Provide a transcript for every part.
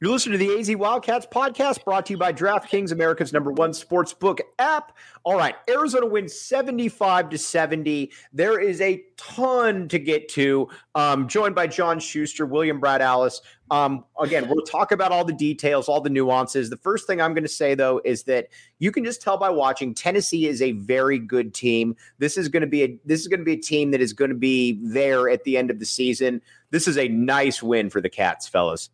You're listening to the AZ Wildcats podcast brought to you by DraftKings, America's #1 sportsbook app. All right, Arizona wins 75-70. There is a ton to get to. Joined by John Schuster, William Brad Alice. Again, we'll talk about all the details, all the nuances. The first thing I'm going to say, though, is that you can just tell by watching, Tennessee is a very good team. This is going to be a team that is going to be there at the end of the season. This is a nice win for the Cats, fellas.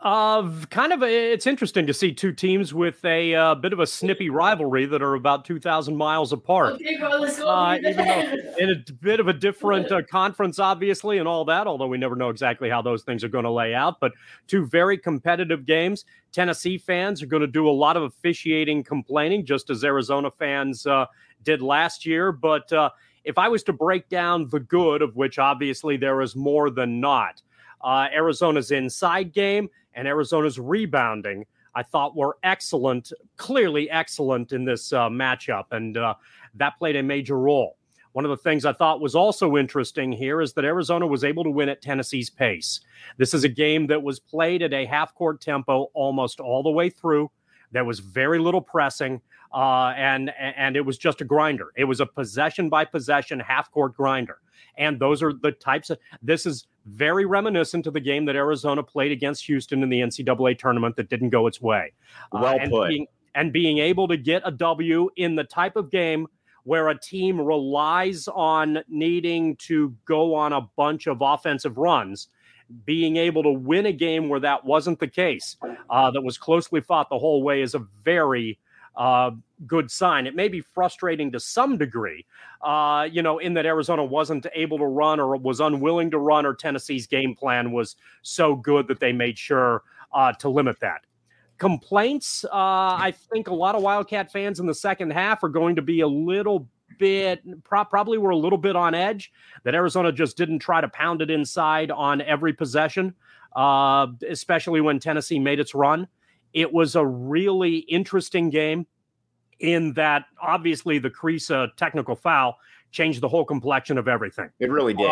It's interesting to see two teams with a bit of a snippy rivalry that are about 2,000 miles apart. Okay, bro, let's go. Even though in a bit of a different conference, obviously, and all that, although we never know exactly how those things are going to lay out. But two very competitive games. Tennessee fans are going to do a lot of officiating complaining, just as Arizona fans did last year. But if I was to break down the good, of which obviously there is more than not, Arizona's inside game and Arizona's rebounding, I thought were excellent, clearly excellent in this matchup, and that played a major role. One of the things I thought was also interesting here is that Arizona was able to win at Tennessee's pace. This is a game that was played at a half-court tempo almost all the way through. There was very little pressing, and it was just a grinder. It was a possession-by-possession half-court grinder. And those are the types of – this is very reminiscent of the game that Arizona played against Houston in the NCAA tournament that didn't go its way. Well put. Being able to get a W in the type of game where a team relies on needing to go on a bunch of offensive runs, being able to win a game where that wasn't the case, that was closely fought the whole way, is a very good sign. It may be frustrating to some degree, in that Arizona wasn't able to run or was unwilling to run, or Tennessee's game plan was so good that they made sure to limit that. Complaints, I think a lot of Wildcat fans in the second half are going to be a little bit, probably were a little bit on edge, that Arizona just didn't try to pound it inside on every possession, especially when Tennessee made its run. It was a really interesting game in that obviously the Kriisa technical foul changed the whole complexion of everything. It really did.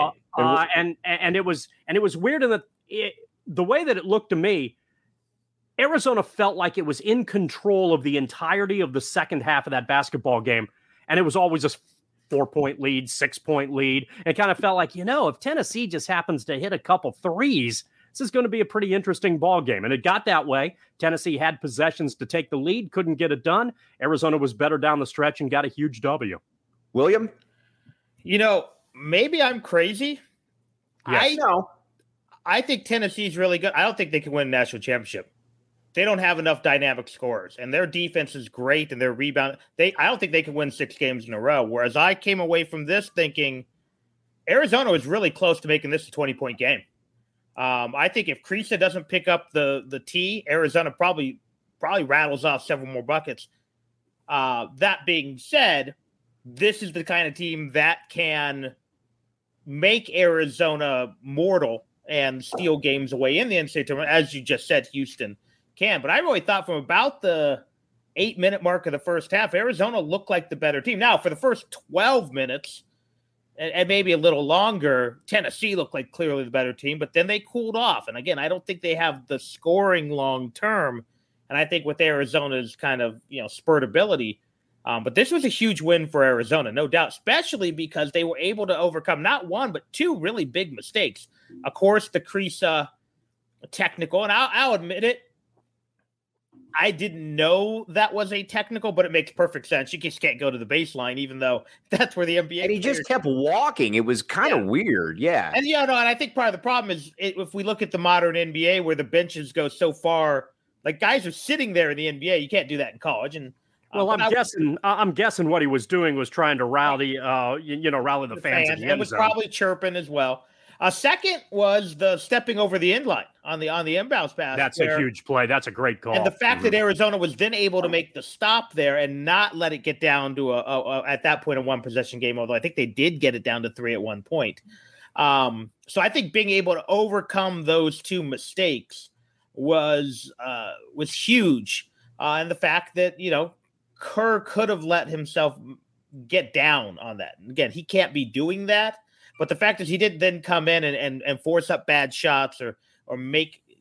And it was weird in that the way that it looked to me, Arizona felt like it was in control of the entirety of the second half of that basketball game. And it was always a 4-point lead, 6-point lead. It kind of felt like, if Tennessee just happens to hit a couple threes, this is going to be a pretty interesting ball game. And it got that way. Tennessee had possessions to take the lead, couldn't get it done. Arizona was better down the stretch and got a huge W. William? Maybe I'm crazy. Yes. I think Tennessee's really good. I don't think they can win a national championship. They don't have enough dynamic scorers, and their defense is great, and their rebound. I don't think they can win 6 games in a row. Whereas I came away from this thinking Arizona was really close to making this a 20-point game. I think if Kriisa doesn't pick up the tee, Arizona probably rattles off several more buckets. That being said, this is the kind of team that can make Arizona mortal and steal games away in the NCAA tournament, as you just said, Houston can. But I really thought from about the 8-minute mark of the first half, Arizona looked like the better team. Now, for the first 12 minutes, and maybe a little longer, Tennessee looked like clearly the better team, but then they cooled off. And again, I don't think they have the scoring long term. And I think with Arizona's kind of, spurt ability, but this was a huge win for Arizona, no doubt, especially because they were able to overcome not one, but 2 really big mistakes. Of course, the Kriisa technical, and I'll admit it, I didn't know that was a technical, but it makes perfect sense. You just can't go to the baseline, even though that's where the NBA. And he just kept walking. It was kind of weird. Yeah. And and I think part of the problem is if we look at the modern NBA where the benches go so far, like guys are sitting there in the NBA. You can't do that in college. And well, I'm guessing what he was doing was trying to rally, rally the fans. And was probably chirping as well. Second was the stepping over the end line on the inbounds pass. That's a huge play. That's a great call. And the fact that Arizona was then able to make the stop there and not let it get down to at that point a 1-possession game, although I think they did get it down to 3 at one point. So I think being able to overcome those 2 mistakes was huge. And the fact that, Kerr could have let himself get down on that. And again, he can't be doing that. But the fact is he didn't then come in and force up bad shots or make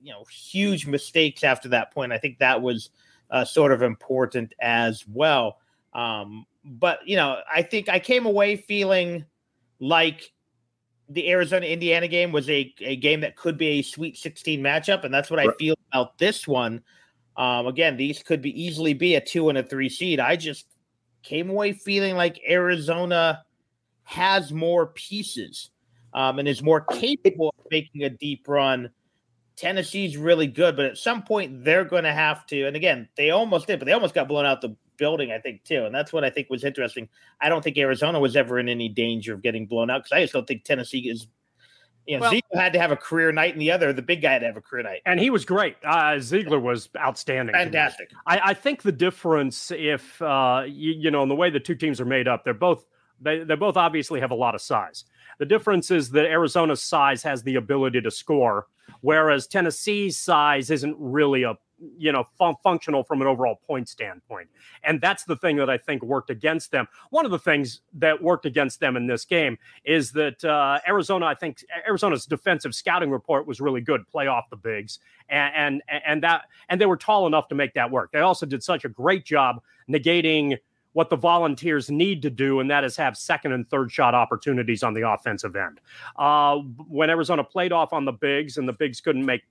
huge mistakes after that point. I think that was sort of important as well. But I think I came away feeling like the Arizona-Indiana game was a game that could be a Sweet 16 matchup, and that's what I feel about this one. Again, these could easily be a 2 and a 3 seed. I just came away feeling like Arizona has more pieces and is more capable of making a deep run. Tennessee's really good, but at some point they're going to have to. And again, they almost did, but they almost got blown out the building, I think, too. And that's what I think was interesting. I don't think Arizona was ever in any danger of getting blown out because I just don't think Tennessee is. Ziegler had to have a career night, and the big guy had to have a career night. And he was great. Ziegler was outstanding. Fantastic. I think the difference, if in the way the two teams are made up, they both obviously have a lot of size. The difference is that Arizona's size has the ability to score, whereas Tennessee's size isn't really functional from an overall point standpoint. And that's the thing that I think worked against them. One of the things that worked against them in this game is that Arizona's defensive scouting report was really good, play off the bigs, and they were tall enough to make that work. They also did such a great job negating what the Volunteers need to do, and that is have second and third shot opportunities on the offensive end. When Arizona played off on the bigs and the bigs couldn't make,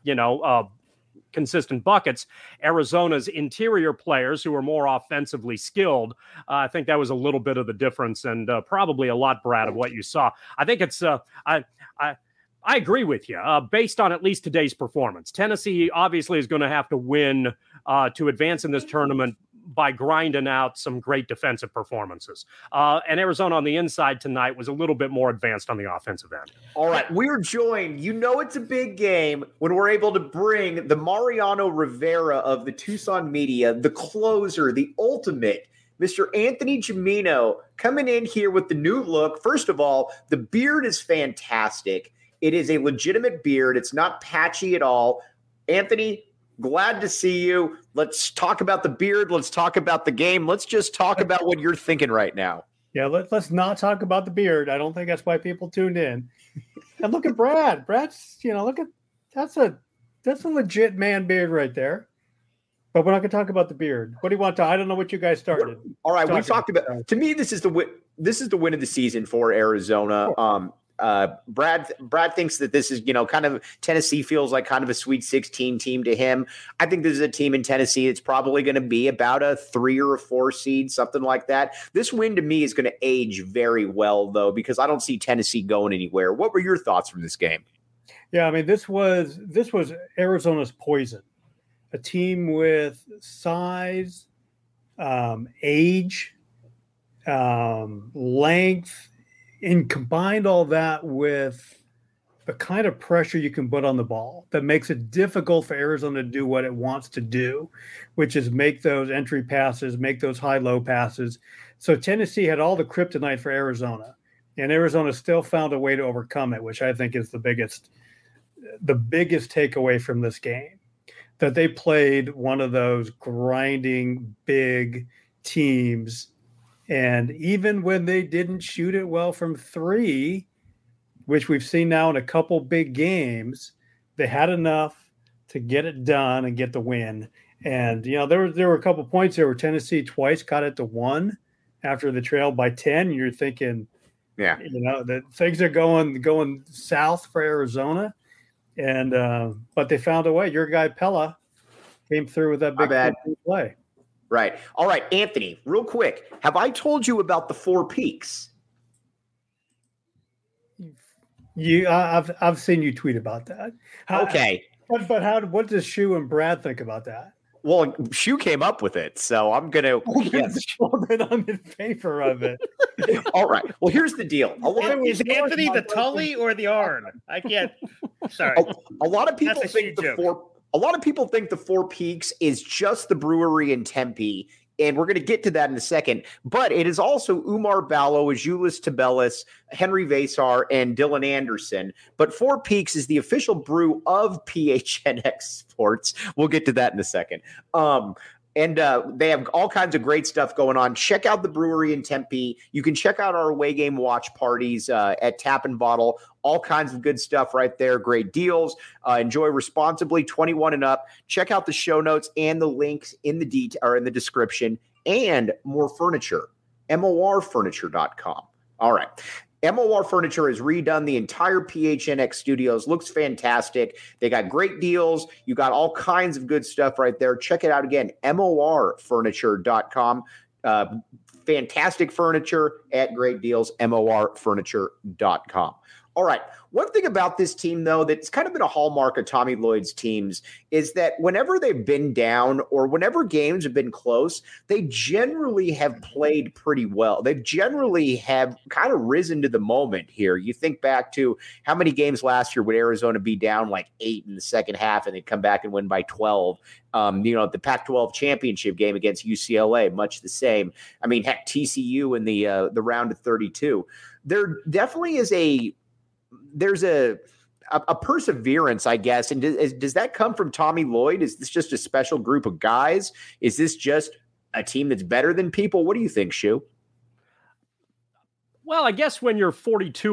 consistent buckets, Arizona's interior players who are more offensively skilled, I think that was a little bit of the difference, and probably a lot, Brad, of what you saw. I think it's I agree with you based on at least today's performance. Tennessee obviously is going to have to win to advance in this tournament by grinding out some great defensive performances. And Arizona on the inside tonight was a little bit more advanced on the offensive end. All right, we're joined. It's a big game when we're able to bring the Mariano Rivera of the Tucson media, the closer, the ultimate, Mr. Anthony Gimino, coming in here with the new look. First of all, the beard is fantastic. It is a legitimate beard. It's not patchy at all. Anthony, glad to see you. Let's talk about the beard. Let's talk about the game. Let's just talk about what you're thinking right now. Yeah, let's not talk about the beard. I don't think that's why people tuned in. And look at Brad. Brad's, that's a legit man beard right there. But we're not going to talk about the beard. What do you want to? I don't know what you guys started. All right, we talked about. To me, this is the win. This is the win of the season for Arizona. Brad thinks that this is, kind of Tennessee feels like kind of a Sweet 16 team to him. I think this is a team in Tennessee that's probably going to be about a 3 or a 4 seed, something like that. This win to me is going to age very well, though, because I don't see Tennessee going anywhere. What were your thoughts from this game? Yeah, I mean, this was Arizona's poison. A team with size, age, length, and combined all that with the kind of pressure you can put on the ball that makes it difficult for Arizona to do what it wants to do, which is make those entry passes, make those high-low passes. So Tennessee had all the kryptonite for Arizona, and Arizona still found a way to overcome it, which I think is the biggest takeaway from this game, that they played one of those grinding big teams. And even when they didn't shoot it well from 3, which we've seen now in a couple big games, they had enough to get it done and get the win. And, there were a couple points there where Tennessee twice got it to 1 after the trail by 10. You're thinking, yeah, that things are going south for Arizona. And but they found a way. Your guy Pella came through with that big play. Right. All right, Anthony, real quick. Have I told you about the 4 peaks? I've seen you tweet about that. Okay. But what does Shu and Brad think about that? Well, Shu came up with it, so I'm going to. Yes. Well, then I'm in favor of it. All right. Well, here's the deal. Is Anthony the Tully or the Arn? I can't. Sorry. A lot of people think the 4. A lot of people think the 4 Peaks is just the brewery in Tempe, and we're going to get to that in a second. But it is also Umar Ballo, Azulis Tabelis, Henry Vasar, and Dylan Anderson. But 4 Peaks is the official brew of PHNX Sports. We'll get to that in a second. And they have all kinds of great stuff going on. Check out the brewery in Tempe. You can check out our away game watch parties at Tap and Bottle All kinds of good stuff right there. Great deals. Enjoy responsibly, 21 and up. Check out the show notes and the links in the description, and more furniture. MORfurniture.com. All right. MOR Furniture has redone the entire PHNX studios. Looks fantastic. They got great deals. You got all kinds of good stuff right there. Check it out again. MORfurniture.com. Fantastic furniture at great deals. MORfurniture.com. All right. One thing about this team, though, that's kind of been a hallmark of Tommy Lloyd's teams is that whenever they've been down or whenever games have been close, they generally have played pretty well. They generally have kind of risen to the moment here. You think back to how many games last year would Arizona be down like 8 in the second half and they'd come back and win by 12. The Pac-12 championship game against UCLA, much the same. I mean, heck, TCU in the round of 32. There definitely is there's a perseverance, I guess. And does that come from Tommy Lloyd? Is this just a special group of guys? Is this just a team that's better than people? What do you think, Shu? Well, I guess when you're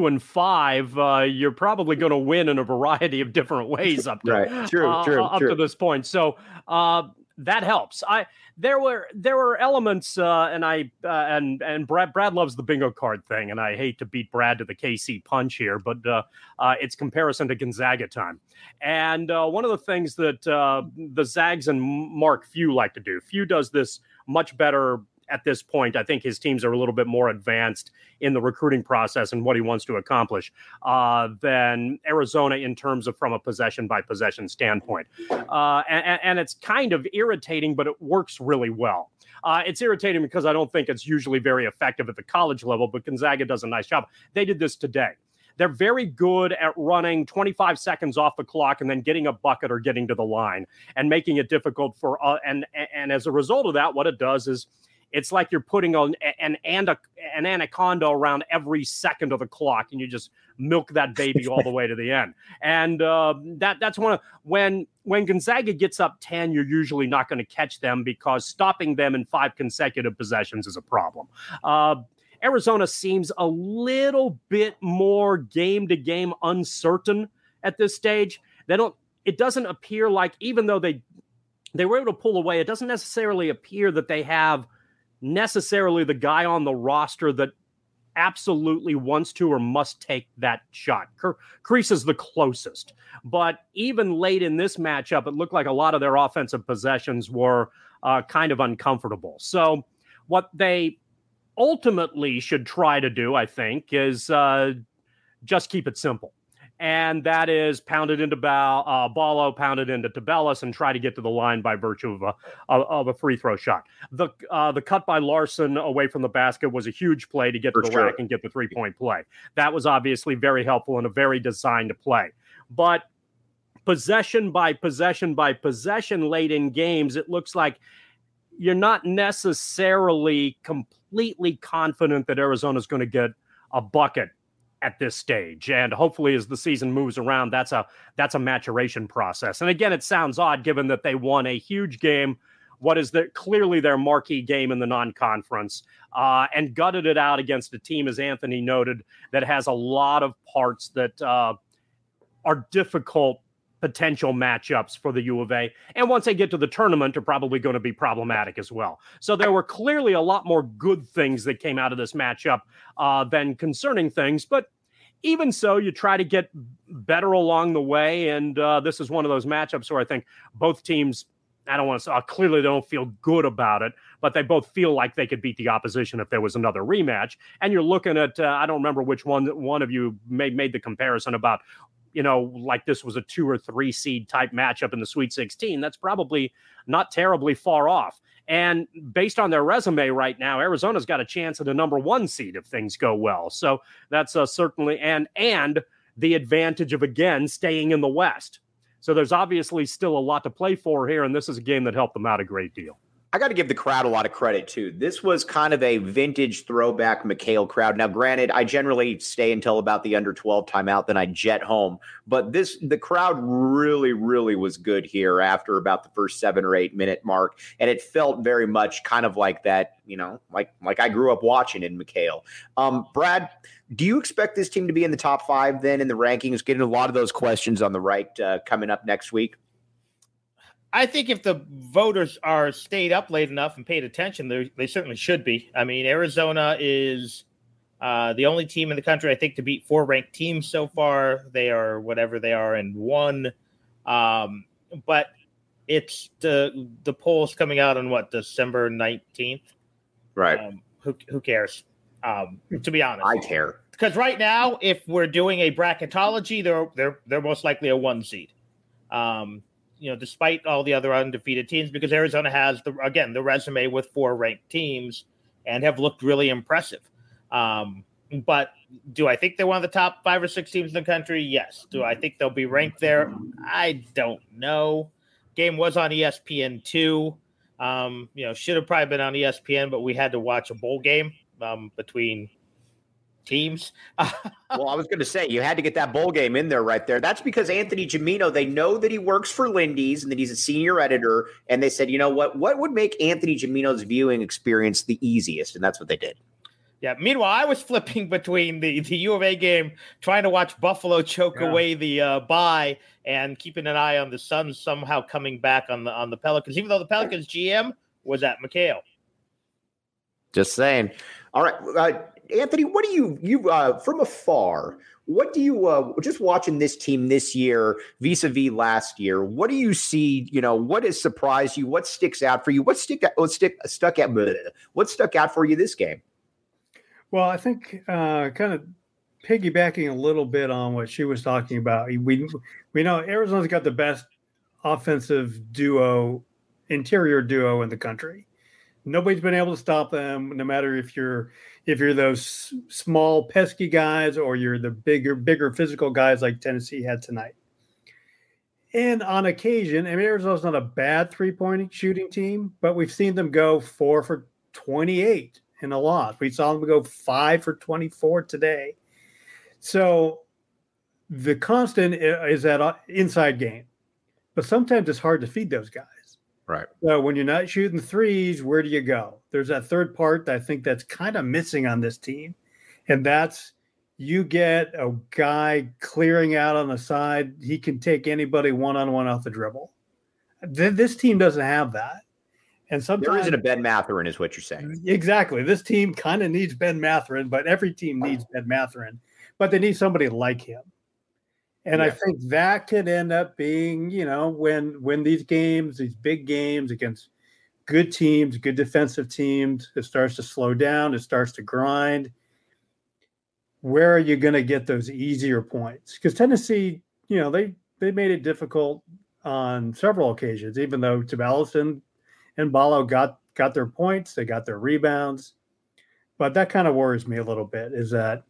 42-5, you're probably going to win in a variety of different ways up to to this point. So that helps. There were elements, and Brad loves the bingo card thing, and I hate to beat Brad to the KC punch here, but it's comparison to Gonzaga time. And one of the things that the Zags and Mark Few like to do, Few does this much better at this point. I think his teams are a little bit more advanced in the recruiting process and what he wants to accomplish than Arizona in terms of from a possession by possession standpoint. And it's kind of irritating, but it works really well. It's irritating because I don't think it's usually very effective at the college level, but Gonzaga does a nice job. They did this today. They're very good at running 25 seconds off the clock and then getting a bucket or getting to the line and making it difficult for and as a result of that, what it does is it's like you're putting an anaconda around every second of the clock, and you just milk that baby all the way to the end. And that's when Gonzaga gets up 10, you're usually not going to catch them because stopping them in 5 consecutive possessions is a problem. Arizona seems a little bit more game-to-game uncertain at this stage. It doesn't appear like, even though they were able to pull away, it doesn't necessarily appear that they have necessarily the guy on the roster that absolutely wants to or must take that shot. Kreese is the closest. But even late in this matchup, it looked like a lot of their offensive possessions were kind of uncomfortable. So what they ultimately should try to do, I think, is just keep it simple. And that is pound it into Ballo, pound it into Tabellis, and try to get to the line by virtue of a free throw shot. The cut by Larson away from the basket was a huge play to get to the rack and get the 3-point play. That was obviously very helpful and a very designed play. But possession by possession by possession late in games, it looks like you're not necessarily completely confident that Arizona's going to get a bucket at this stage. And hopefully as the season moves around, that's a maturation process. And again, it sounds odd given that they won a huge game, what is clearly their marquee game in the non-conference, and gutted it out against a team, as Anthony noted, that has a lot of parts that are difficult potential matchups for the U of A. And once they get to the tournament, are probably going to be problematic as well. So there were clearly a lot more good things that came out of this matchup than concerning things. But even so, you try to get better along the way. And this is one of those matchups where I think both teams, I don't want to say, clearly don't feel good about it, but they both feel like they could beat the opposition if there was another rematch. And you're looking at, I don't remember which one of you made the comparison about, like this was a 2 or 3 seed type matchup in the Sweet 16. That's probably not terribly far off. And based on their resume right now, Arizona's got a chance at a number 1 seed if things go well. So that's certainly, and the advantage of, again, staying in the West. So there's obviously still a lot to play for here, and this is a game that helped them out a great deal. I got to give the crowd a lot of credit too. This was kind of a vintage throwback McHale crowd. Now, granted, I generally stay until about the under 12 timeout, then I jet home. But the crowd really, really was good here after about the first 7 or 8 minute mark, and it felt very much kind of like that, like I grew up watching in McHale. Brad, do you expect this team to be in the top 5 then in the rankings? Getting a lot of those questions on the right coming up next week. I think if the voters are stayed up late enough and paid attention, they certainly should be. I mean, Arizona is the only team in the country, I think, to beat 4 ranked teams so far. They are whatever they are and 1. But it's the polls coming out on December 19th. Right. Who cares? To be honest, I care, because right now, if we're doing a bracketology, they're most likely a 1 seed. Despite all the other undefeated teams, because Arizona has the resume with 4 ranked teams and have looked really impressive. But do I think they're one of the top 5 or 6 teams in the country? Yes. Do I think they'll be ranked there? I don't know. Game was on ESPN2. Should have probably been on ESPN, but we had to watch a bowl game between teams. Well, I was going to say, you had to get that bowl game in there right there. That's because Anthony Gimino, they know that he works for Lindy's and that he's a senior editor. And they said, you know what would make Anthony Gimino's viewing experience the easiest? And that's what they did. Yeah. Meanwhile, I was flipping between the U of A game, trying to watch Buffalo choke away the bye, and keeping an eye on the Suns somehow coming back on the Pelicans, even though the Pelicans GM was at McHale. Just saying. All right. Anthony, what do you from afar, what do you just watching this team this year vis-a-vis last year, what do you see, what has surprised you, what sticks out for you, what stuck out for you this game? Well, I think kind of piggybacking a little bit on what she was talking about, we know Arizona's got the best offensive interior duo in the country. Nobody's been able to stop them, no matter if you're those small pesky guys or you're the bigger physical guys like Tennessee had tonight. And on occasion, Arizona's not a bad 3-point shooting team, but we've seen them go 4 for 28 in a loss. We saw them go 5 for 24 today. So the constant is that inside game, but sometimes it's hard to feed those guys. Right. So when you're not shooting threes, where do you go? There's that third part that I think that's kind of missing on this team. And that's you get a guy clearing out on the side. He can take anybody one-on-one off the dribble. This team doesn't have that. And sometimes there isn't a Ben Mathurin is what you're saying. Exactly. This team kind of needs Ben Mathurin, but every team needs Ben Mathurin. But they need somebody like him. And I think that could end up being, when these big games against good teams, good defensive teams, it starts to slow down, it starts to grind. Where are you going to get those easier points? Because Tennessee, they made it difficult on several occasions, even though Tabalis and Ballo got their points, they got their rebounds. But that kind of worries me a little bit, is that,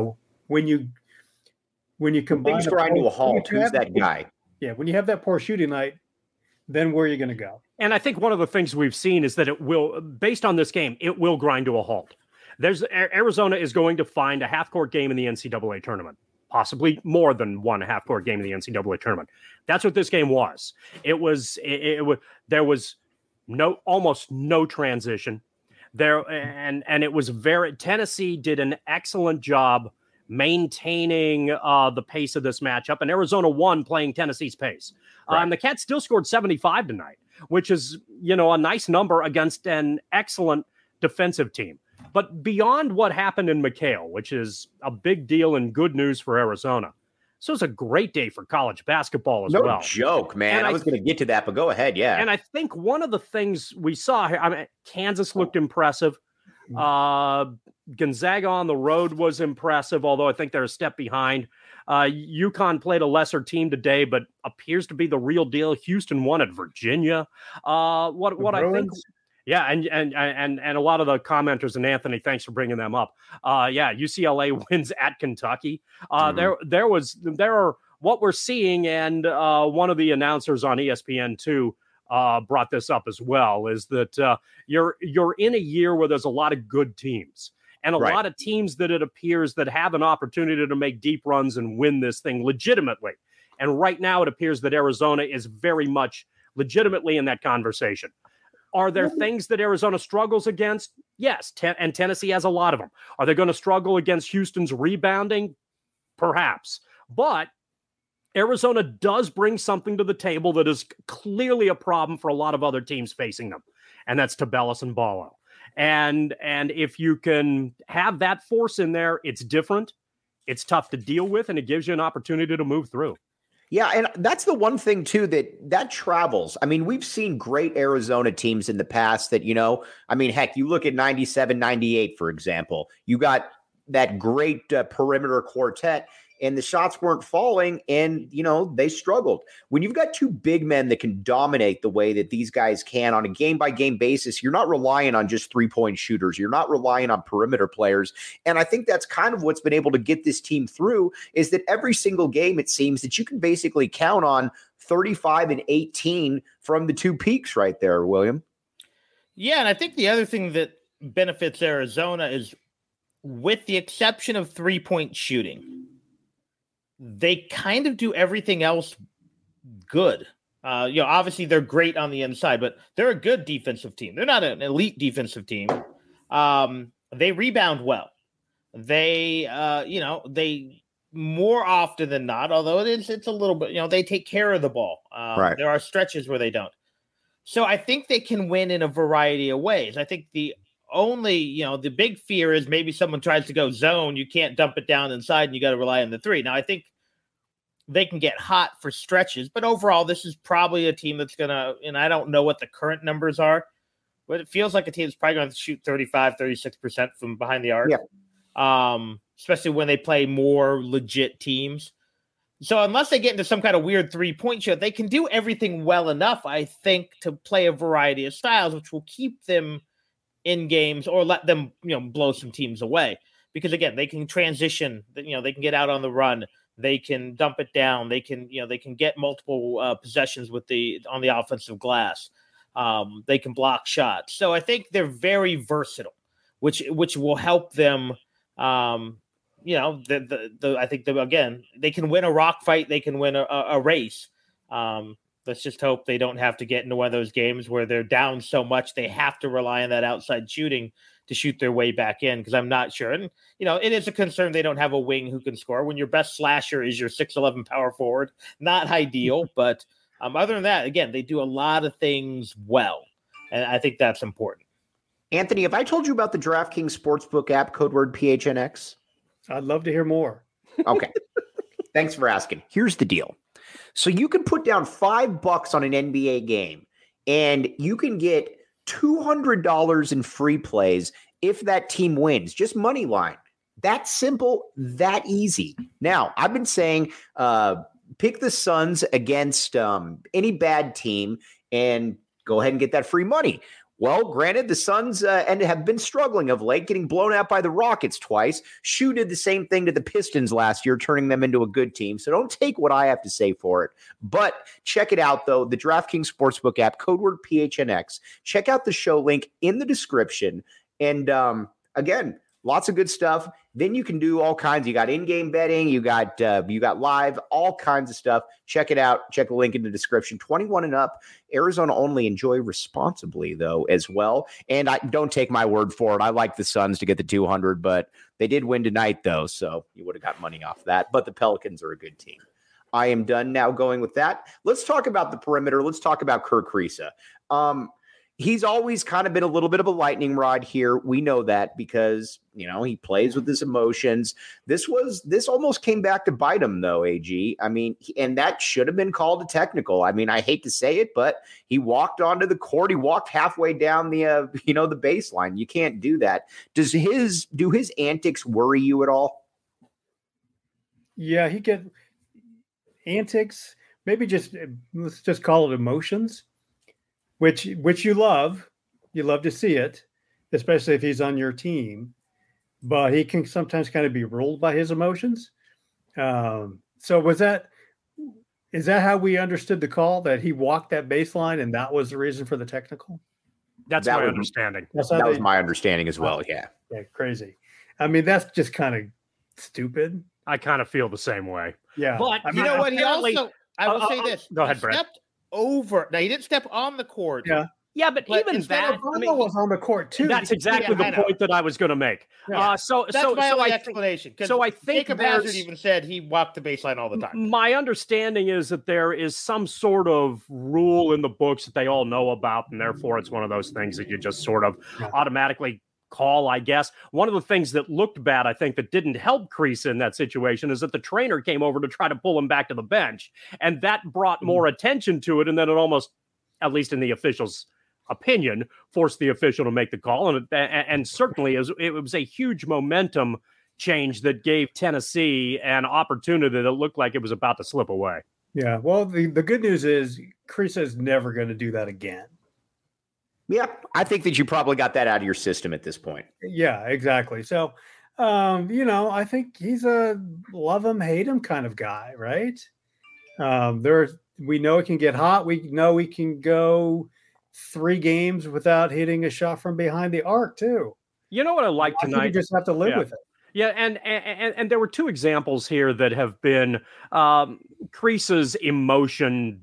when you combine things grind to a halt, who's that guy? Yeah, when you have that poor shooting night, then where are you going to go? And I think one of the things we've seen is that it will, based on this game, it will grind to a halt. Arizona is going to find a half-court game in the NCAA tournament, possibly more than one half-court game in the NCAA tournament. That's what this game was. There was almost no transition there, and it was Tennessee did an excellent job maintaining the pace of this matchup, and Arizona won playing Tennessee's pace. Right. The Cats still scored 75 tonight, which is, a nice number against an excellent defensive team. But beyond what happened in McHale, which is a big deal and good news for Arizona, so it's a great day for college basketball as well. No joke, man. And I was going to get to that, but go ahead. Yeah. And I think one of the things we saw here, Kansas looked impressive. Gonzaga on the road was impressive, although I think they're a step behind. UConn played a lesser team today, but appears to be the real deal. Houston won at Virginia. What I think, yeah, and a lot of the commenters, and Anthony, thanks for bringing them up. UCLA wins at Kentucky. There are what we're seeing, and one of the announcers on ESPN2 brought this up as well, is that you're in a year where there's a lot of good teams and a lot of teams that it appears that have an opportunity to make deep runs and win this thing legitimately. And right now it appears that Arizona is very much legitimately in that conversation. Are there things that Arizona struggles against? Yes, and Tennessee has a lot of them. Are they going to struggle against Houston's rebounding? Perhaps. But Arizona does bring something to the table that is clearly a problem for a lot of other teams facing them, and that's Tubelis and Ballo. And if you can have that force in there, it's different, it's tough to deal with, and it gives you an opportunity to move through. Yeah, and that's the one thing, too, that travels. I mean, we've seen great Arizona teams in the past that, heck, you look at 97, 98, for example. You got that great perimeter quartet, and the shots weren't falling, and, they struggled. When you've got two big men that can dominate the way that these guys can on a game-by-game basis, you're not relying on just three-point shooters. You're not relying on perimeter players. And I think that's kind of what's been able to get this team through, is that every single game, it seems that you can basically count on 35 and 18 from the two peaks right there, William. Yeah, and I think the other thing that benefits Arizona is, with the exception of three-point shooting, they kind of do everything else good. Obviously they're great on the inside, but they're a good defensive team. They're not an elite defensive team. They rebound well. They more often than not, although it's a little bit, they take care of the ball. Right. There are stretches where they don't. So I think they can win in a variety of ways. I think the big fear is maybe someone tries to go zone. You can't dump it down inside and you got to rely on the three. Now, I think they can get hot for stretches, but overall, this is probably a team that's going to, and I don't know what the current numbers are, but it feels like a team that's probably going to shoot 35, 36% from behind the arc. Yeah. Especially when they play more legit teams. So unless they get into some kind of weird 3-point shot, they can do everything well enough, I think, to play a variety of styles, which will keep them in games or let them, blow some teams away. Because again, they can transition, they can get out on the run, they can dump it down, they can get multiple possessions on the offensive glass. They can block shots. So I think they're very versatile, which will help them. I think again, they can win a rock fight, they can win a race. Let's just hope they don't have to get into one of those games where they're down so much they have to rely on that outside shooting to shoot their way back in, because I'm not sure. And, it is a concern they don't have a wing who can score when your best slasher is your 6'11" power forward. Not ideal, but other than that, again, they do a lot of things well, and I think that's important. Anthony, have I told you about the DraftKings Sportsbook app, code word PHNX? I'd love to hear more. Okay. Thanks for asking. Here's the deal. So you can put down $5 on an NBA game, and you can get $200 in free plays if that team wins. Just money line. That simple, that easy. Now, I've been saying pick the Suns against any bad team and go ahead and get that free money. Well, granted, the Suns have been struggling of late, getting blown out by the Rockets twice. Shu did the same thing to the Pistons last year, turning them into a good team. So don't take what I have to say for it. But check it out, though, the DraftKings Sportsbook app, code word PHNX. Check out the show link in the description. And again, lots of good stuff. Then you can do all kinds. You got in-game betting. You got live, all kinds of stuff. Check it out. Check the link in the description. 21 and up. Arizona only. Enjoy responsibly, though, as well. And don't take my word for it. I like the Suns to get the 200, but they did win tonight, though, so you would have got money off that. But the Pelicans are a good team. I am done now going with that. Let's talk about the perimeter. Let's talk about Kerr Kriisa. He's always kind of been a little bit of a lightning rod here. We know that because, he plays with his emotions. This almost came back to bite him, though, AG. I mean, and that should have been called a technical. I mean, I hate to say it, but he walked onto the court. He walked halfway down the baseline. You can't do that. Do his antics worry you at all? Yeah, he get antics. Maybe let's just call it emotions. Which you love to see it, especially if he's on your team, but he can sometimes kind of be ruled by his emotions. So is Is that how we understood the call, that he walked that baseline and that was the reason for the technical? That's That my was- understanding. That was my understanding as well. Yeah. Yeah, crazy. I mean, that's just kind of stupid. I kind of feel the same way. Yeah. But I You mean, know what? He apparently- also, I will say this. Go ahead, he Brad. stepped over. Now, he didn't step on the court. Yeah. Yeah, but even instead that, of I Obama mean, was on the court too. that's exactly Yeah, I the know. point that I was going to make. Yeah. So That's my only I think, explanation. 'Cause so I think Jacob there's- Hazard even said he walked the baseline all the time. my understanding is that there is some sort of rule in the books that they all know about, and therefore it's one of those things that you just sort of Yeah. automatically call, I guess. One of the things that looked bad, I think, that didn't help Kreese in that situation is that the trainer came over to try to pull him back to the bench, and that brought more attention to it, and then it almost, at least in the officials' opinion, forced the official to make the call, and certainly it was a huge momentum change that gave Tennessee an opportunity that looked like it was about to slip away. Yeah. Well, the good news is Kreese is never going to do that again. Yeah. I think that you probably got that out of your system at this point. Yeah, exactly. So, I think he's a love him, hate him kind of guy, right? We know it can get hot. We know we can go 3 games without hitting a shot from behind the arc too. You know what I like I think tonight? you just have to live Yeah. with it. Yeah, and there were 2 examples here that have been Kreese's emotion.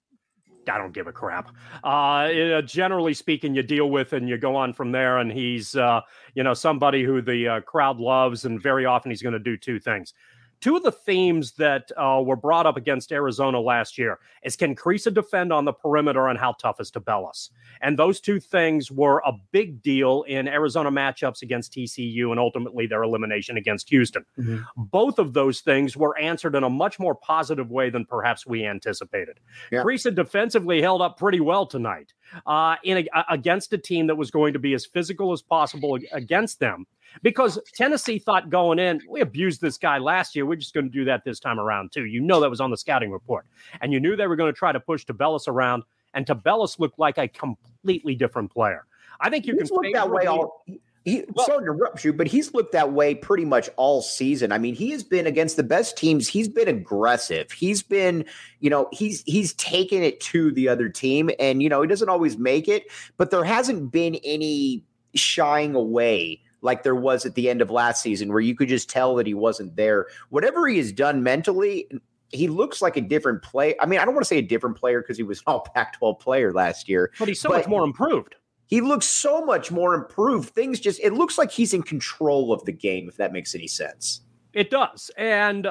I don't give a crap. Generally speaking, you deal with and you go on from there. And he's, somebody who the crowd loves, and very often he's going to do 2 things. 2 of the themes that were brought up against Arizona last year is, can Kreese defend on the perimeter, and how tough is Tabellus? And those 2 things were a big deal in Arizona matchups against TCU and ultimately their elimination against Houston. Mm-hmm. Both of those things were answered in a much more positive way than perhaps we anticipated. Yeah. Kreese defensively held up pretty well tonight against a team that was going to be as physical as possible against them. Because Tennessee thought going in, we abused this guy last year. We're just going to do that this time around, too. You know that was on the scouting report. And you knew they were going to try to push Tabellus around. And Tabellus looked like a completely different player. I think you He's can looked that way all. Sorry to interrupt you, but he's looked that way pretty much all season. I mean, he has been against the best teams. He's been aggressive. He's been, he's taken it to the other team, and he doesn't always make it, but there hasn't been any shying away like there was at the end of last season, where you could just tell that he wasn't there. Whatever he has done mentally, he looks like a different player. I mean, I don't want to say a different player because he was an all Pac-12 player last year. But he's so much more improved. He looks so much more improved. It looks like he's in control of the game, if that makes any sense. It does. And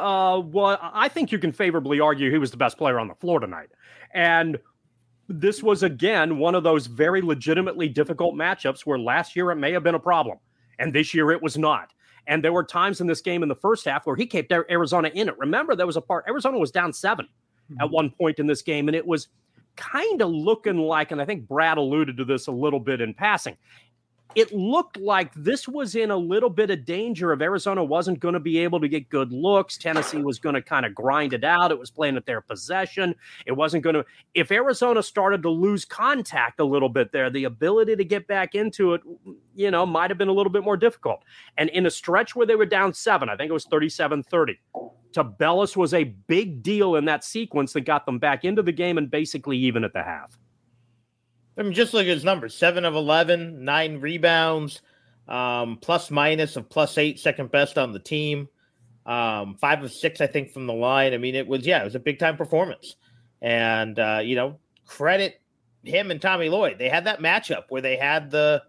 I think you can favorably argue he was the best player on the floor tonight. And this was, again, one of those very legitimately difficult matchups where last year it may have been a problem, and this year it was not. And there were times in this game in the first half where he kept Arizona in it. Remember, there was a part, Arizona was down 7 at one point in this game, and it was kind of looking like, and I think Brad alluded to this a little bit in passing, it looked like this was in a little bit of danger of Arizona wasn't going to be able to get good looks. Tennessee was going to kind of grind it out. It was playing at their possession. It wasn't going to, if Arizona started to lose contact a little bit there, the ability to get back into it, might have been a little bit more difficult. And in a stretch where they were down 7, I think it was 37-30, Tabellus was a big deal in that sequence that got them back into the game and basically even at the half. I mean, just look at his numbers: 7 of 11, 9 rebounds, plus minus of +8, second best on the team. 5 of 6, I think, from the line. I mean, it was a big time performance, and credit him and Tommy Lloyd. They had that matchup where they had the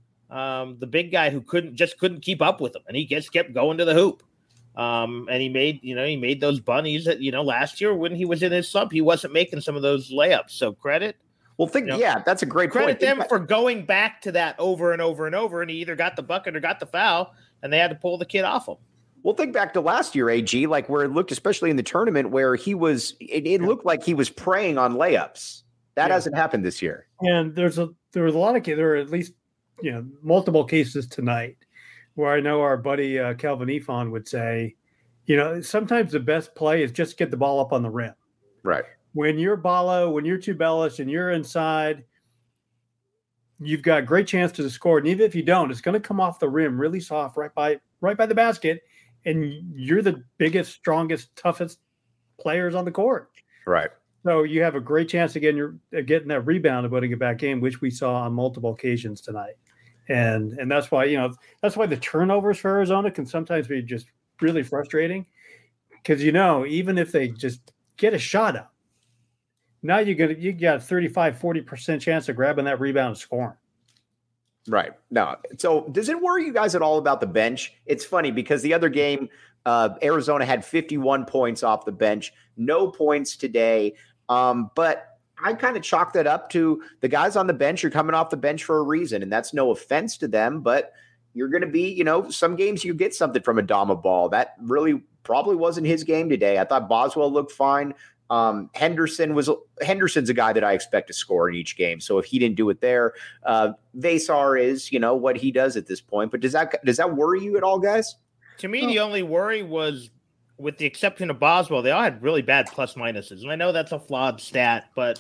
big guy who couldn't keep up with him, and he just kept going to the hoop. And he made those bunnies that last year when he was in his slump, he wasn't making some of those layups. So credit. Well, that's a great Credit point. them for going back to that over and over and over, and he either got the bucket or got the foul, and they had to pull the kid off him. Well, think back to last year, AG, like where it looked, especially in the tournament, where it looked like he was preying on layups. That hasn't happened this year. And there are at least multiple cases tonight where I know our buddy Calvin Ifan would say, sometimes the best play is just get the ball up on the rim. Right. When you're Ballo, when you're Tubelis and you're inside, you've got a great chance to score. And even if you don't, it's going to come off the rim really soft right by the basket. And you're the biggest, strongest, toughest players on the court. Right. So you have a great chance of getting that rebound and putting it back in, which we saw on multiple occasions tonight. And that's why, that's why the turnovers for Arizona can sometimes be just really frustrating, because, even if they just get a shot up, now you got 35-40% chance of grabbing that rebound and scoring. Right. No. So does it worry you guys at all about the bench? It's funny because the other game, Arizona had 51 points off the bench, no points today. But I kind of chalk that up to the guys on the bench are coming off the bench for a reason. And that's no offense to them, but you're going to be, some games you get something from Adama Ball. That really probably wasn't his game today. I thought Boswell looked fine. Henderson's a guy that I expect to score in each game. So if he didn't do it there, Vesar is, what he does at this point. But does that worry you at all, guys? To me, the only worry was, with the exception of Boswell, they all had really bad plus minuses. And I know that's a flawed stat, but,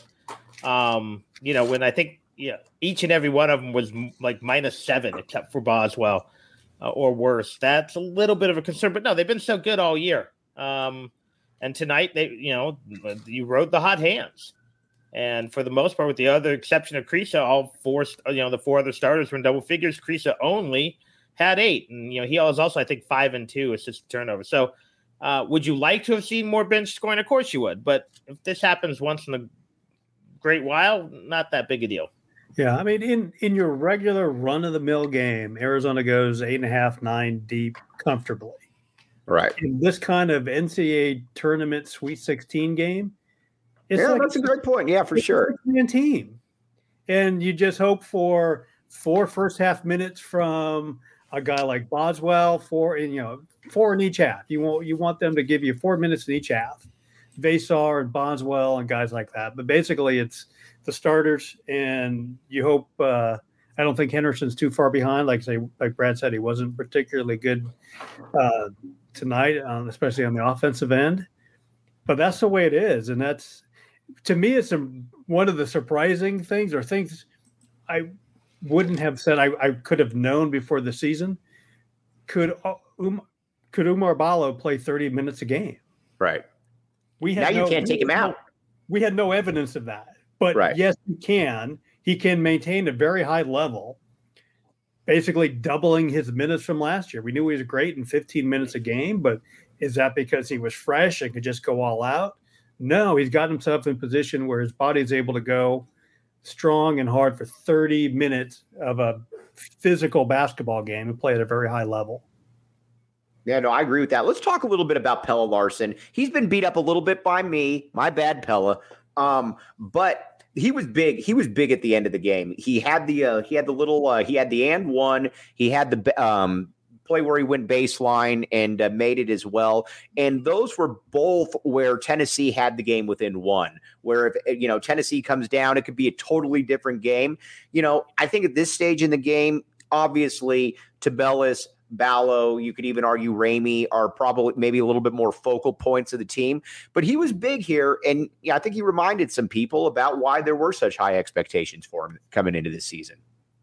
when I think each and every one of them was like -7, except for Boswell or worse, that's a little bit of a concern. But no, they've been so good all year. And tonight, you rode the hot hands. And for the most part, with the other exception of Kriisa, all four, the four other starters were in double figures. Kriisa only had 8. And, he was also, I think, 5 and 2 assist turnover. So, would you like to have seen more bench scoring? Of course you would. But if this happens once in a great while, not that big a deal. Yeah, I mean, in your regular run-of-the-mill game, Arizona goes 8.5, 9 deep comfortably. Right. In this kind of NCAA tournament Sweet 16 game, that's a great point. Yeah, for sure. It's a team. And you just hope for 4 first-half minutes from a guy like Boswell, 4 in each half. You want them to give you 4 minutes in each half. Vesar and Boswell and guys like that. But basically, it's the starters, and you hope. I don't think Henderson's too far behind. Like Brad said, he wasn't particularly good tonight, especially on the offensive end. But that's the way it is, and that's, to me, it's one of the surprising things, or things I wouldn't have said I could have known before the season. Could Oumar Ballo play 30 minutes a game? Right. You can't take him out. We had no evidence of that. But Yes, he can. He can maintain a very high level, basically doubling his minutes from last year. We knew he was great in 15 minutes a game, but is that because he was fresh and could just go all out? No, he's got himself in a position where his body's able to go strong and hard for 30 minutes of a physical basketball game and play at a very high level. Yeah, no, I agree with that. Let's talk a little bit about Pelle Larsson. He's been beat up a little bit by me. My bad, Pelle. But he was big. He was big at the end of the game. He had the and one. He had the play where he went baseline and made it as well. And those were both where Tennessee had the game within 1. Where if Tennessee comes down, it could be a totally different game. I think at this stage in the game, obviously, Tubelis, Ballo, you could even argue Ramey are probably maybe a little bit more focal points of the team. But he was big here, and I think he reminded some people about why there were such high expectations for him coming into this season.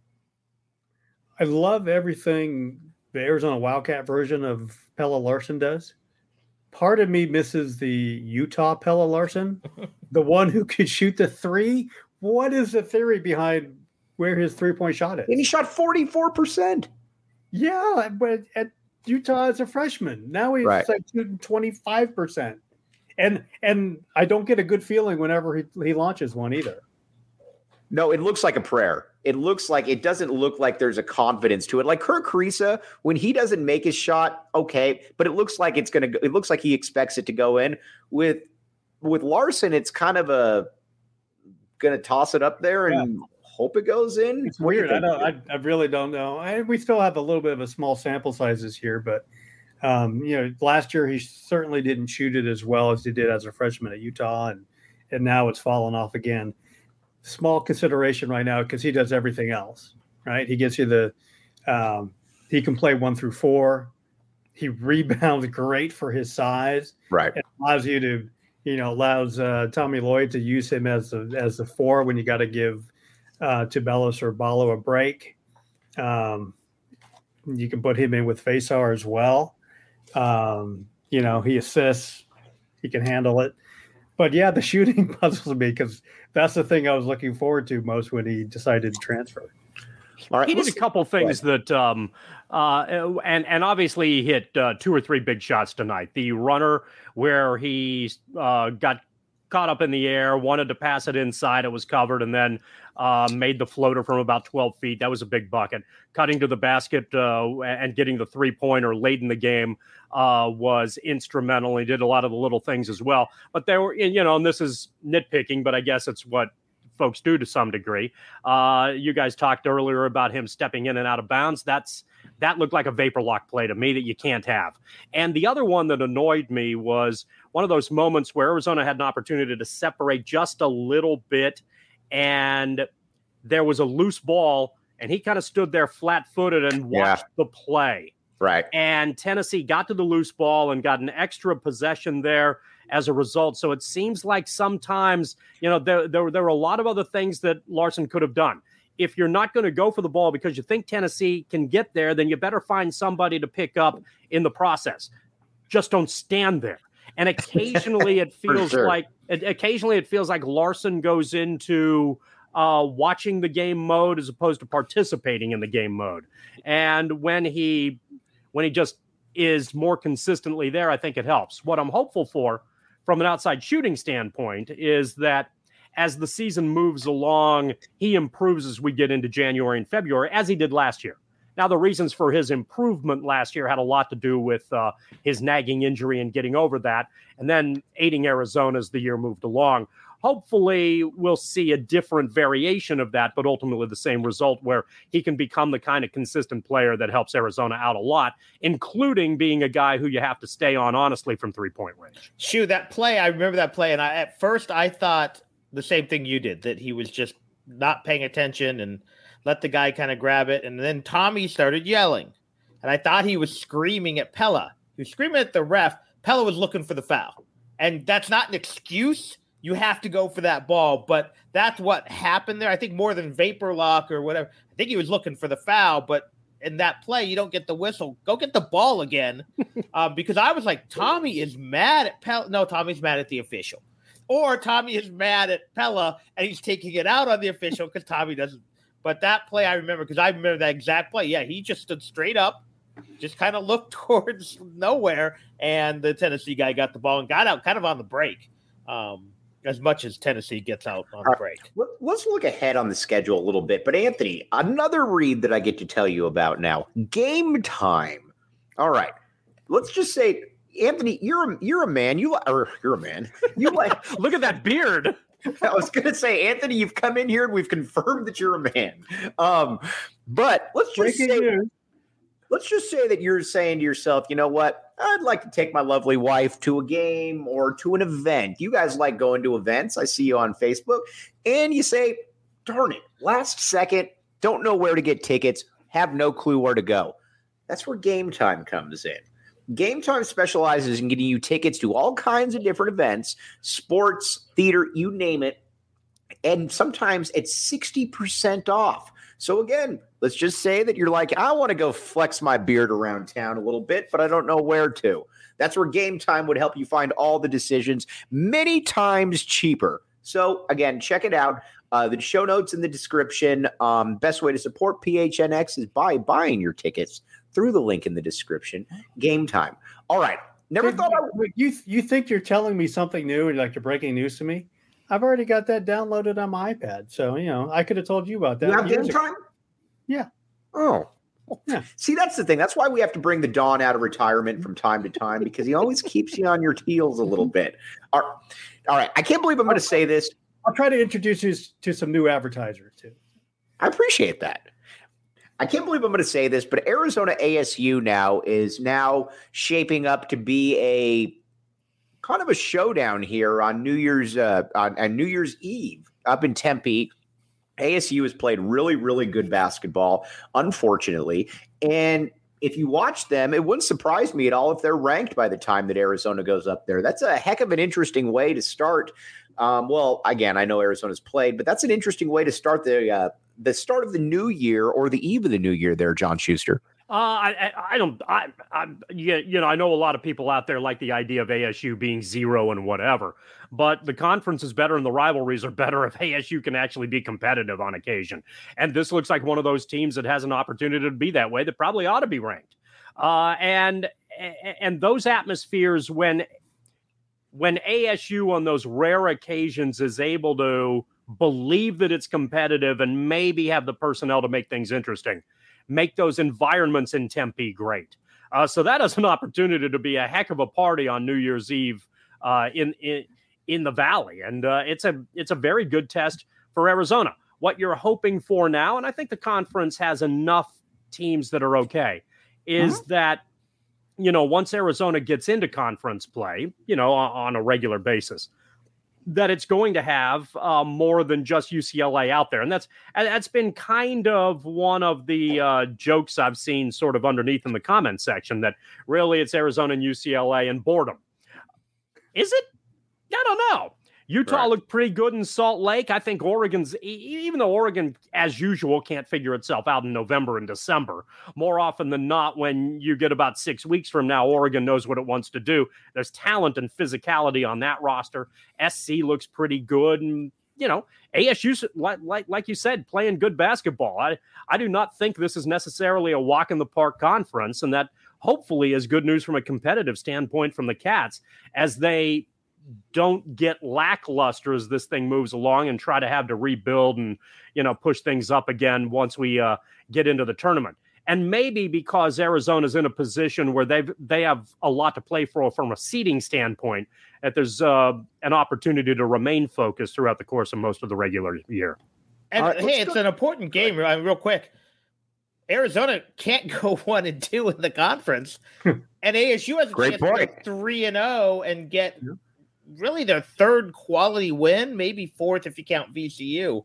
I love everything the Arizona Wildcat version of Pelle Larsson does. Part of me misses the Utah Pelle Larsson, the one who could shoot the 3. What is the theory behind where his 3-point shot is? And he shot 44%. Yeah, but at Utah as a freshman, now he's like shooting 25%, and I don't get a good feeling whenever he launches one either. No, it looks like a prayer. It doesn't look like there's a confidence to it. Like Kerr Kriisa, when he doesn't make his shot, okay, but it looks like it looks like he expects it to go in. With Larsson, it's kind of going to toss it up there and hope it goes in. It's weird. I really don't know. We still have a little bit of a small sample sizes here, but last year he certainly didn't shoot it as well as he did as a freshman at Utah, and now it's fallen off again. Small consideration right now because he does everything else, right? He gets you he can play 1 through 4. He rebounds great for his size. Right. It allows you to, allows Tommy Lloyd to use him as the 4 when you got to give Tubelis or Ballo a break. You can put him in with Vesar as well. He assists. He can handle it. But yeah, the shooting puzzles me because that's the thing I was looking forward to most when he decided to transfer. All right, he did a couple things that, and obviously he hit 2 or 3 big shots tonight. The runner where he got caught up in the air, wanted to pass it inside, it was covered, and then made the floater from about 12 feet. That was a big bucket. Cutting to the basket and getting the 3-pointer late in the game was instrumental. He did a lot of the little things as well. But there were, and this is nitpicking, but I guess it's what folks do to some degree. You guys talked earlier about him stepping in and out of bounds. That looked like a vapor lock play to me that you can't have. And the other one that annoyed me was one of those moments where Arizona had an opportunity to separate just a little bit, and there was a loose ball, and he kind of stood there flat-footed and watched the play. Right. And Tennessee got to the loose ball and got an extra possession there as a result. So it seems like sometimes, there were a lot of other things that Larson could have done. If you're not going to go for the ball because you think Tennessee can get there, then you better find somebody to pick up in the process. Just don't stand there. And occasionally it feels like Larson goes into watching the game mode as opposed to participating in the game mode. And when he just is more consistently there, I think it helps. What I'm hopeful for from an outside shooting standpoint is that as the season moves along, he improves as we get into January and February, as he did last year. Now, the reasons for his improvement last year had a lot to do with his nagging injury and getting over that, and then aiding Arizona as the year moved along. Hopefully, we'll see a different variation of that, but ultimately the same result where he can become the kind of consistent player that helps Arizona out a lot, including being a guy who you have to stay on, honestly, from three-point range. Shoot, that play, I remember that play, and at first I thought the same thing you did, that he was just not paying attention and let the guy kind of grab it. And then Tommy started yelling, and I thought he was screaming at Pella. He was screaming at the ref. Pella was looking for the foul, and that's not an excuse. You have to go for that ball, but that's what happened there. I think more than vapor lock or whatever. I think he was looking for the foul, but in that play, you don't get the whistle. Go get the ball again, because I was like, Tommy is mad at Pella. No, Tommy's mad at the official. Or Tommy is mad at Pella, and he's taking it out on the official because Tommy doesn't. But that play I remember because I remember that exact play. Yeah, he just stood straight up, just kind of looked towards nowhere, and the Tennessee guy got the ball and got out kind of on the break, as much as Tennessee gets out on the break. Let's look ahead on the schedule a little bit. But, Anthony, another read that I get to tell you about now, Game Time. All right, let's just say – Anthony, you're a man. You're a man. You like look at that beard. I was going to say, Anthony, you've come in here and we've confirmed that you're a man. But let's just say that you're saying to yourself, you know what? I'd like to take my lovely wife to a game or to an event. You guys like going to events. I see you on Facebook. And you say, darn it, last second, don't know where to get tickets, have no clue where to go. That's where Game Time comes in. Game Time specializes in getting you tickets to all kinds of different events, sports, theater, you name it. And sometimes it's 60% off. So again, let's just say that you're like, I want to go flex my beard around town a little bit, but I don't know where to. That's where Game Time would help you find all the decisions many times cheaper. So again, check it out. The show notes in the description. Best way to support PHNX is by buying your tickets through the link in the description. Game Time. All right. You think you're telling me something new and like you're breaking news to me? I've already got that downloaded on my iPad. So, I could have told you about that. You have Game Time? Yeah. Oh. Yeah. See, that's the thing. That's why we have to bring the Don out of retirement from time to time, because he always keeps you on your heels a little bit. All right. I can't believe I'm going to say this. I'll try to introduce you to some new advertisers too. I appreciate that. I can't believe I'm going to say this, but Arizona ASU is now shaping up to be a kind of a showdown here on New Year's on New Year's Eve up in Tempe. ASU has played really, really good basketball, unfortunately. And if you watch them, it wouldn't surprise me at all if they're ranked by the time that Arizona goes up there. That's a heck of an interesting way to start. Well, again, I know Arizona's played, but that's an interesting way to start the start of the new year or the eve of the new year there, John Schuster. I don't. I know a lot of people out there like the idea of ASU being 0 and whatever, but the conference is better and the rivalries are better if ASU can actually be competitive on occasion. And this looks like one of those teams that has an opportunity to be that way that probably ought to be ranked. And those atmospheres when ASU on those rare occasions is able to believe that it's competitive and maybe have the personnel to make things interesting, make those environments in Tempe great. So that is an opportunity to be a heck of a party on New Year's Eve in the Valley. And it's a very good test for Arizona. What you're hoping for now, and I think the conference has enough teams that are okay, is that, once Arizona gets into conference play, on a regular basis, that it's going to have more than just UCLA out there. And that's been kind of one of the jokes I've seen sort of underneath in the comment section, that really it's Arizona and UCLA and boredom. Is it? I don't know. Utah looked pretty good in Salt Lake. I think Oregon's, even though Oregon, as usual, can't figure itself out in November and December, more often than not, when you get about 6 weeks from now, Oregon knows what it wants to do. There's talent and physicality on that roster. SC looks pretty good. And, ASU, like you said, playing good basketball. I do not think this is necessarily a walk in the park conference, and that hopefully is good news from a competitive standpoint from the Cats, as they don't get lackluster as this thing moves along and try to have to rebuild and, push things up again once we get into the tournament. And maybe because Arizona's in a position where they have a lot to play for from a seeding standpoint, that there's an opportunity to remain focused throughout the course of most of the regular year. And it's an important game. Real quick, Arizona can't go 1-2 in the conference, and ASU has a chance to go 3-0 and get really their third quality win, maybe fourth if you count VCU.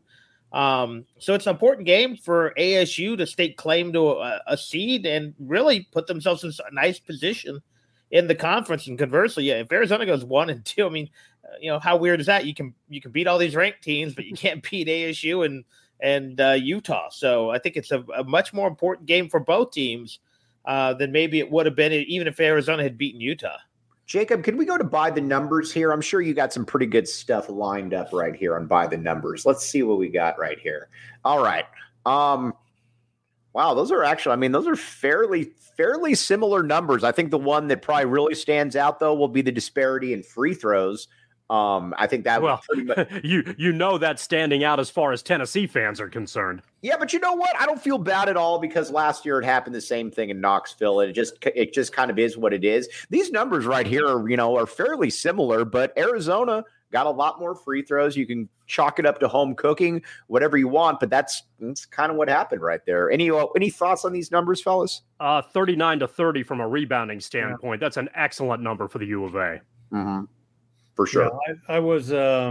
So it's an important game for ASU to stake claim to a seed and really put themselves in a nice position in the conference. And conversely, if Arizona goes 1-2, I mean, how weird is that? You can beat all these ranked teams, but you can't beat ASU and Utah. So I think it's a much more important game for both teams than maybe it would have been even if Arizona had beaten Utah. Jacob, can we go to By the Numbers here? I'm sure you got some pretty good stuff lined up right here on By the Numbers. Let's see what we got right here. All right. Wow, those are fairly similar numbers. I think the one that probably really stands out, though, will be the disparity in free throws. I think that was pretty much that's standing out as far as Tennessee fans are concerned. Yeah, but you know what? I don't feel bad at all, because last year it happened the same thing in Knoxville, and it just kind of is what it is. These numbers right here are fairly similar, but Arizona got a lot more free throws. You can chalk it up to home cooking, whatever you want, but that's kind of what happened right there. Any thoughts on these numbers, fellas? 39-30 from a rebounding standpoint. Yeah. That's an excellent number for the U of A. Mm-hmm. For sure. Yeah, I was.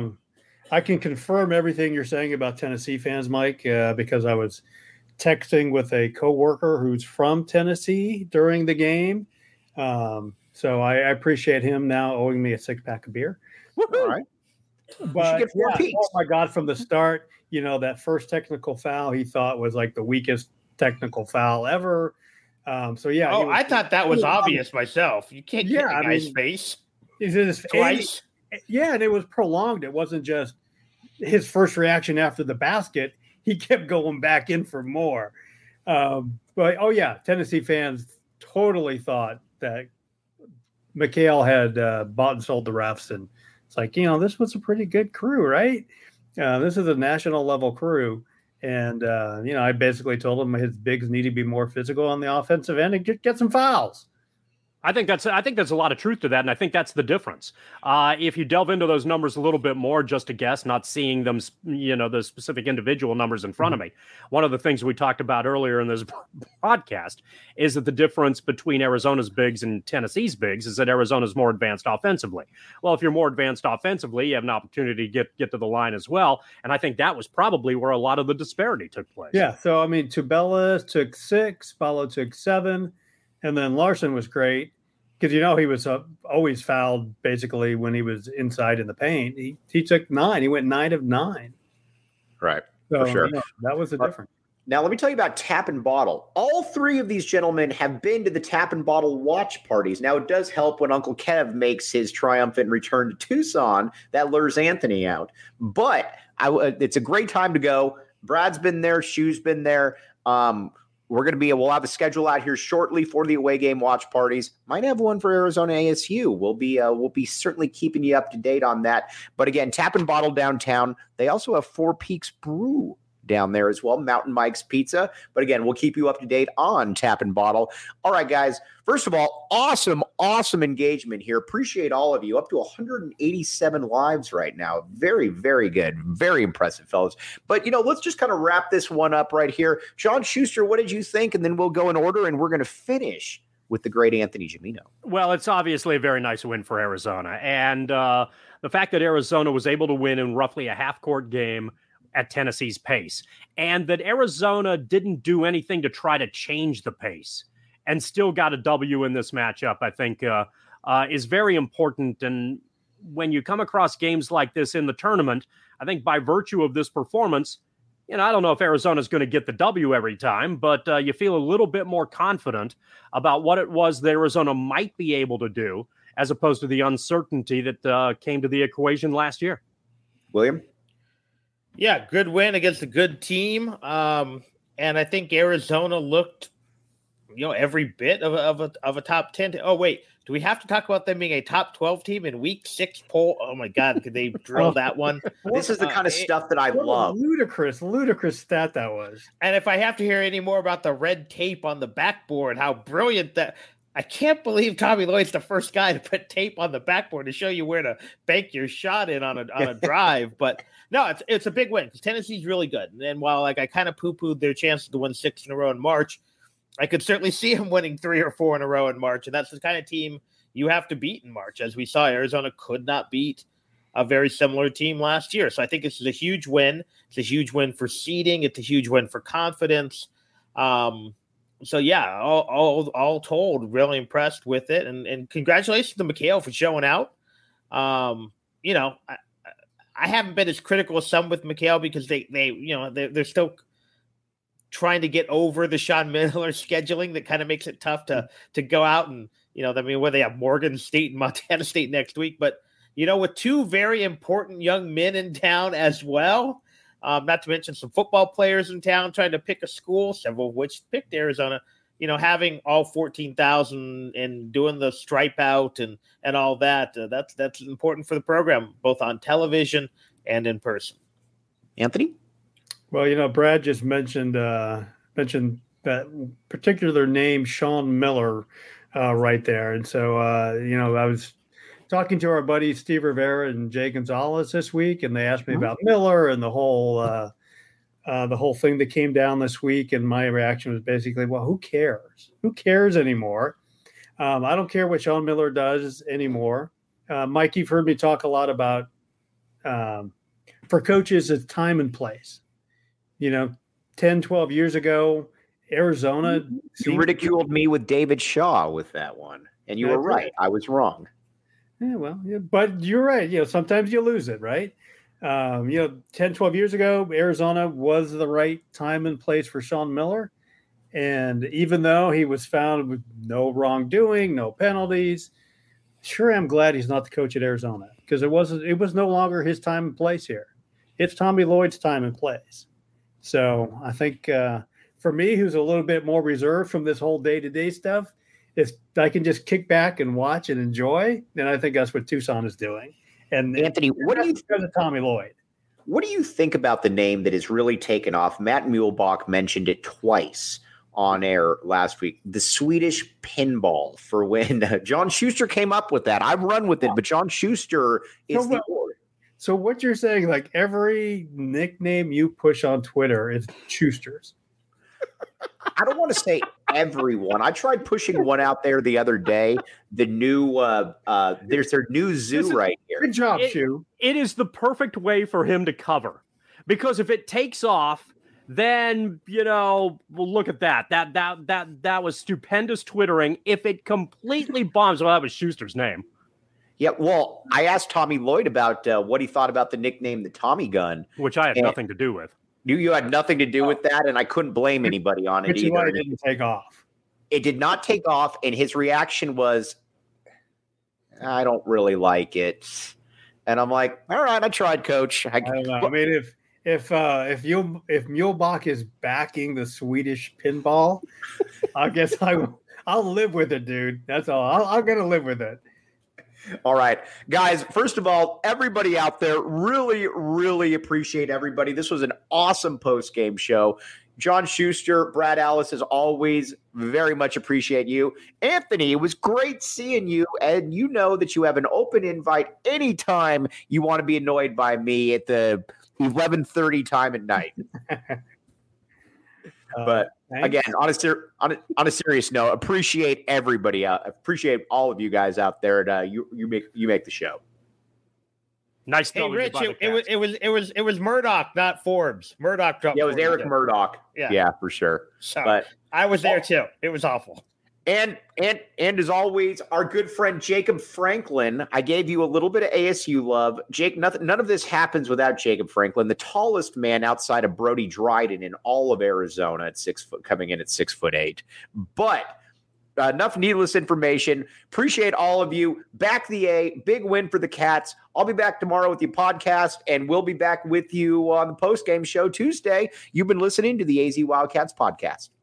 I can confirm everything you're saying about Tennessee fans, Mike, because I was texting with a coworker who's from Tennessee during the game. So I appreciate him now owing me a 6-pack of beer. All right. But oh my God, from the start, that first technical foul he thought was like the weakest technical foul ever. I thought that was obvious myself. You can't get the guy's face. Twice. Yeah, and it was prolonged. It wasn't just his first reaction after the basket. He kept going back in for more. Tennessee fans totally thought that McHale had bought and sold the refs. And it's like, this was a pretty good crew, right? This is a national level crew. And, I basically told him his bigs need to be more physical on the offensive end and get some fouls. I think there's a lot of truth to that, and I think that's the difference. If you delve into those numbers a little bit more, just to guess, not seeing them, the specific individual numbers in front of me. One of the things we talked about earlier in this podcast is that the difference between Arizona's bigs and Tennessee's bigs is that Arizona's more advanced offensively. Well, if you're more advanced offensively, you have an opportunity to get to the line as well, and I think that was probably where a lot of the disparity took place. Yeah, so Tubelis took 6, Ballo took 7, and then Larson was great. Because, he was always fouled basically when he was inside in the paint. He took 9. He went 9 of 9. Right. So, for sure. That was the difference. Now, let me tell you about Tap and Bottle. All three of these gentlemen have been to the Tap and Bottle watch parties. Now, it does help when Uncle Kev makes his triumphant return to Tucson. That lures Anthony out. But it's a great time to go. Brad's been there. Shu's been there. We'll have a schedule out here shortly for the away game watch parties. Might have one for Arizona ASU. We'll be certainly keeping you up to date on that. But again, Tap and Bottle downtown. They also have Four Peaks Brew down there as well, Mountain Mike's Pizza. But again, we'll keep you up to date on Tap and Bottle. All right, guys. First of all, awesome engagement here. Appreciate all of you. Up to 187 lives right now. Very, very good. Very impressive, fellas. But, let's just kind of wrap this one up right here. John Schuster, what did you think? And then we'll go in order, and we're going to finish with the great Anthony Gimino. Well, it's obviously a very nice win for Arizona. And the fact that Arizona was able to win in roughly a half-court game at Tennessee's pace, and that Arizona didn't do anything to try to change the pace and still got a W in this matchup, I think is very important. And when you come across games like this in the tournament, I think by virtue of this performance, I don't know if Arizona's going to get the W every time, but you feel a little bit more confident about what it was that Arizona might be able to do, as opposed to the uncertainty that came to the equation last year. William? Yeah, good win against a good team. And I think Arizona looked, every bit of a top 10. Oh, wait, do we have to talk about them being a top 12 team in week 6 poll? Oh my God, could they drill that one? This is the kind of stuff that I love. Ludicrous stat that was. And if I have to hear any more about the red tape on the backboard, how brilliant that. I can't believe Tommy Lloyd's the first guy to put tape on the backboard to show you where to bank your shot in on a drive. But no, it's a big win because Tennessee's really good. And while I kind of poo-pooed their chances to win 6 in a row in March, I could certainly see them winning 3 or 4 in a row in March. And that's the kind of team you have to beat in March. As we saw, Arizona could not beat a very similar team last year. So I think this is a huge win. It's a huge win for seeding. It's a huge win for confidence. So yeah, all told, really impressed with it, and congratulations to McHale for showing out. I haven't been as critical as some with McHale because they're still trying to get over the Sean Miller scheduling that kind of makes it tough to go out and where they have Morgan State and Montana State next week, but with 2 very important young men in town as well. Not to mention some football players in town trying to pick a school, several of which picked Arizona, having all 14,000 and doing the stripe out and all that. That's important for the program, both on television and in person. Anthony? Well, Brad just mentioned that particular name, Sean Miller, right there. And so, I was talking to our buddies Steve Rivera and Jay Gonzalez this week, and they asked me about Miller and the whole thing that came down this week. And my reaction was basically, well, who cares? Who cares anymore? I don't care what Sean Miller does anymore. Mike, you've heard me talk a lot about for coaches, it's time and place. 10, 12 years ago, Arizona. You ridiculed me with David Shaw with that one, and you were right. I was wrong. Yeah, but you're right. Sometimes you lose it, right? 10, 12 years ago, Arizona was the right time and place for Sean Miller. And even though he was found with no wrongdoing, no penalties, sure, I'm glad he's not the coach at Arizona because it was no longer his time and place here. It's Tommy Lloyd's time and place. So I think for me, who's a little bit more reserved from this whole day-to-day stuff, if I can just kick back and watch and enjoy, then I think that's what Tucson is doing. And Anthony, what do you think of Tommy Lloyd? What do you think about the name that has really taken off? Matt Muehlbach mentioned it twice on air last week. The Swedish pinball, for when John Schuster came up with that. I've run with it, but John Schuster is So what you're saying, like every nickname you push on Twitter is Schuster's. I don't want to say everyone. I tried pushing one out there the other day. The new there's their new zoo right here. Good job, Shu. It is the perfect way for him to cover, because if it takes off, then well, look at that. That was stupendous twittering. If it completely bombs, well, that was Schuster's name. Yeah, well, I asked Tommy Lloyd about what he thought about the nickname the Tommy Gun, which I had nothing to do with. You had nothing to do with that, and I couldn't blame anybody on it Which is why either. it didn't take off. It did not take off, and his reaction was, I don't really like it. And I'm like, all right, I tried, Coach. I don't know. I mean, if Muehlbach is backing the Swedish pinball, I guess I'll live with it, dude. That's all. I'm gonna live with it. All right, guys, first of all, everybody out there, really, really appreciate everybody. This was an awesome post-game show. John Schuster, Brad Alice, as always, very much appreciate you. Anthony, it was great seeing you, and you know that you have an open invite anytime you want to be annoyed by me at the 11:30 time at night. But again, on a serious note, appreciate everybody out. Appreciate all of you guys out there. And, you make the show. Nice. Hey, Rich, it was Murdoch, not Forbes. Murdoch dropped. Yeah, it was Eric Murdoch. Yeah, for sure. So, but I was there too. It was awful. And as always, our good friend Jacob Franklin. I gave you a little bit of ASU love. Jake, none of this happens without Jacob Franklin, the tallest man outside of Brody Dryden in all of Arizona at 6 foot, coming in at 6'8". But enough needless information. Appreciate all of you. Back the A, big win for the Cats. I'll be back tomorrow with your podcast, and we'll be back with you on the post-game show Tuesday. You've been listening to the AZ Wildcats podcast.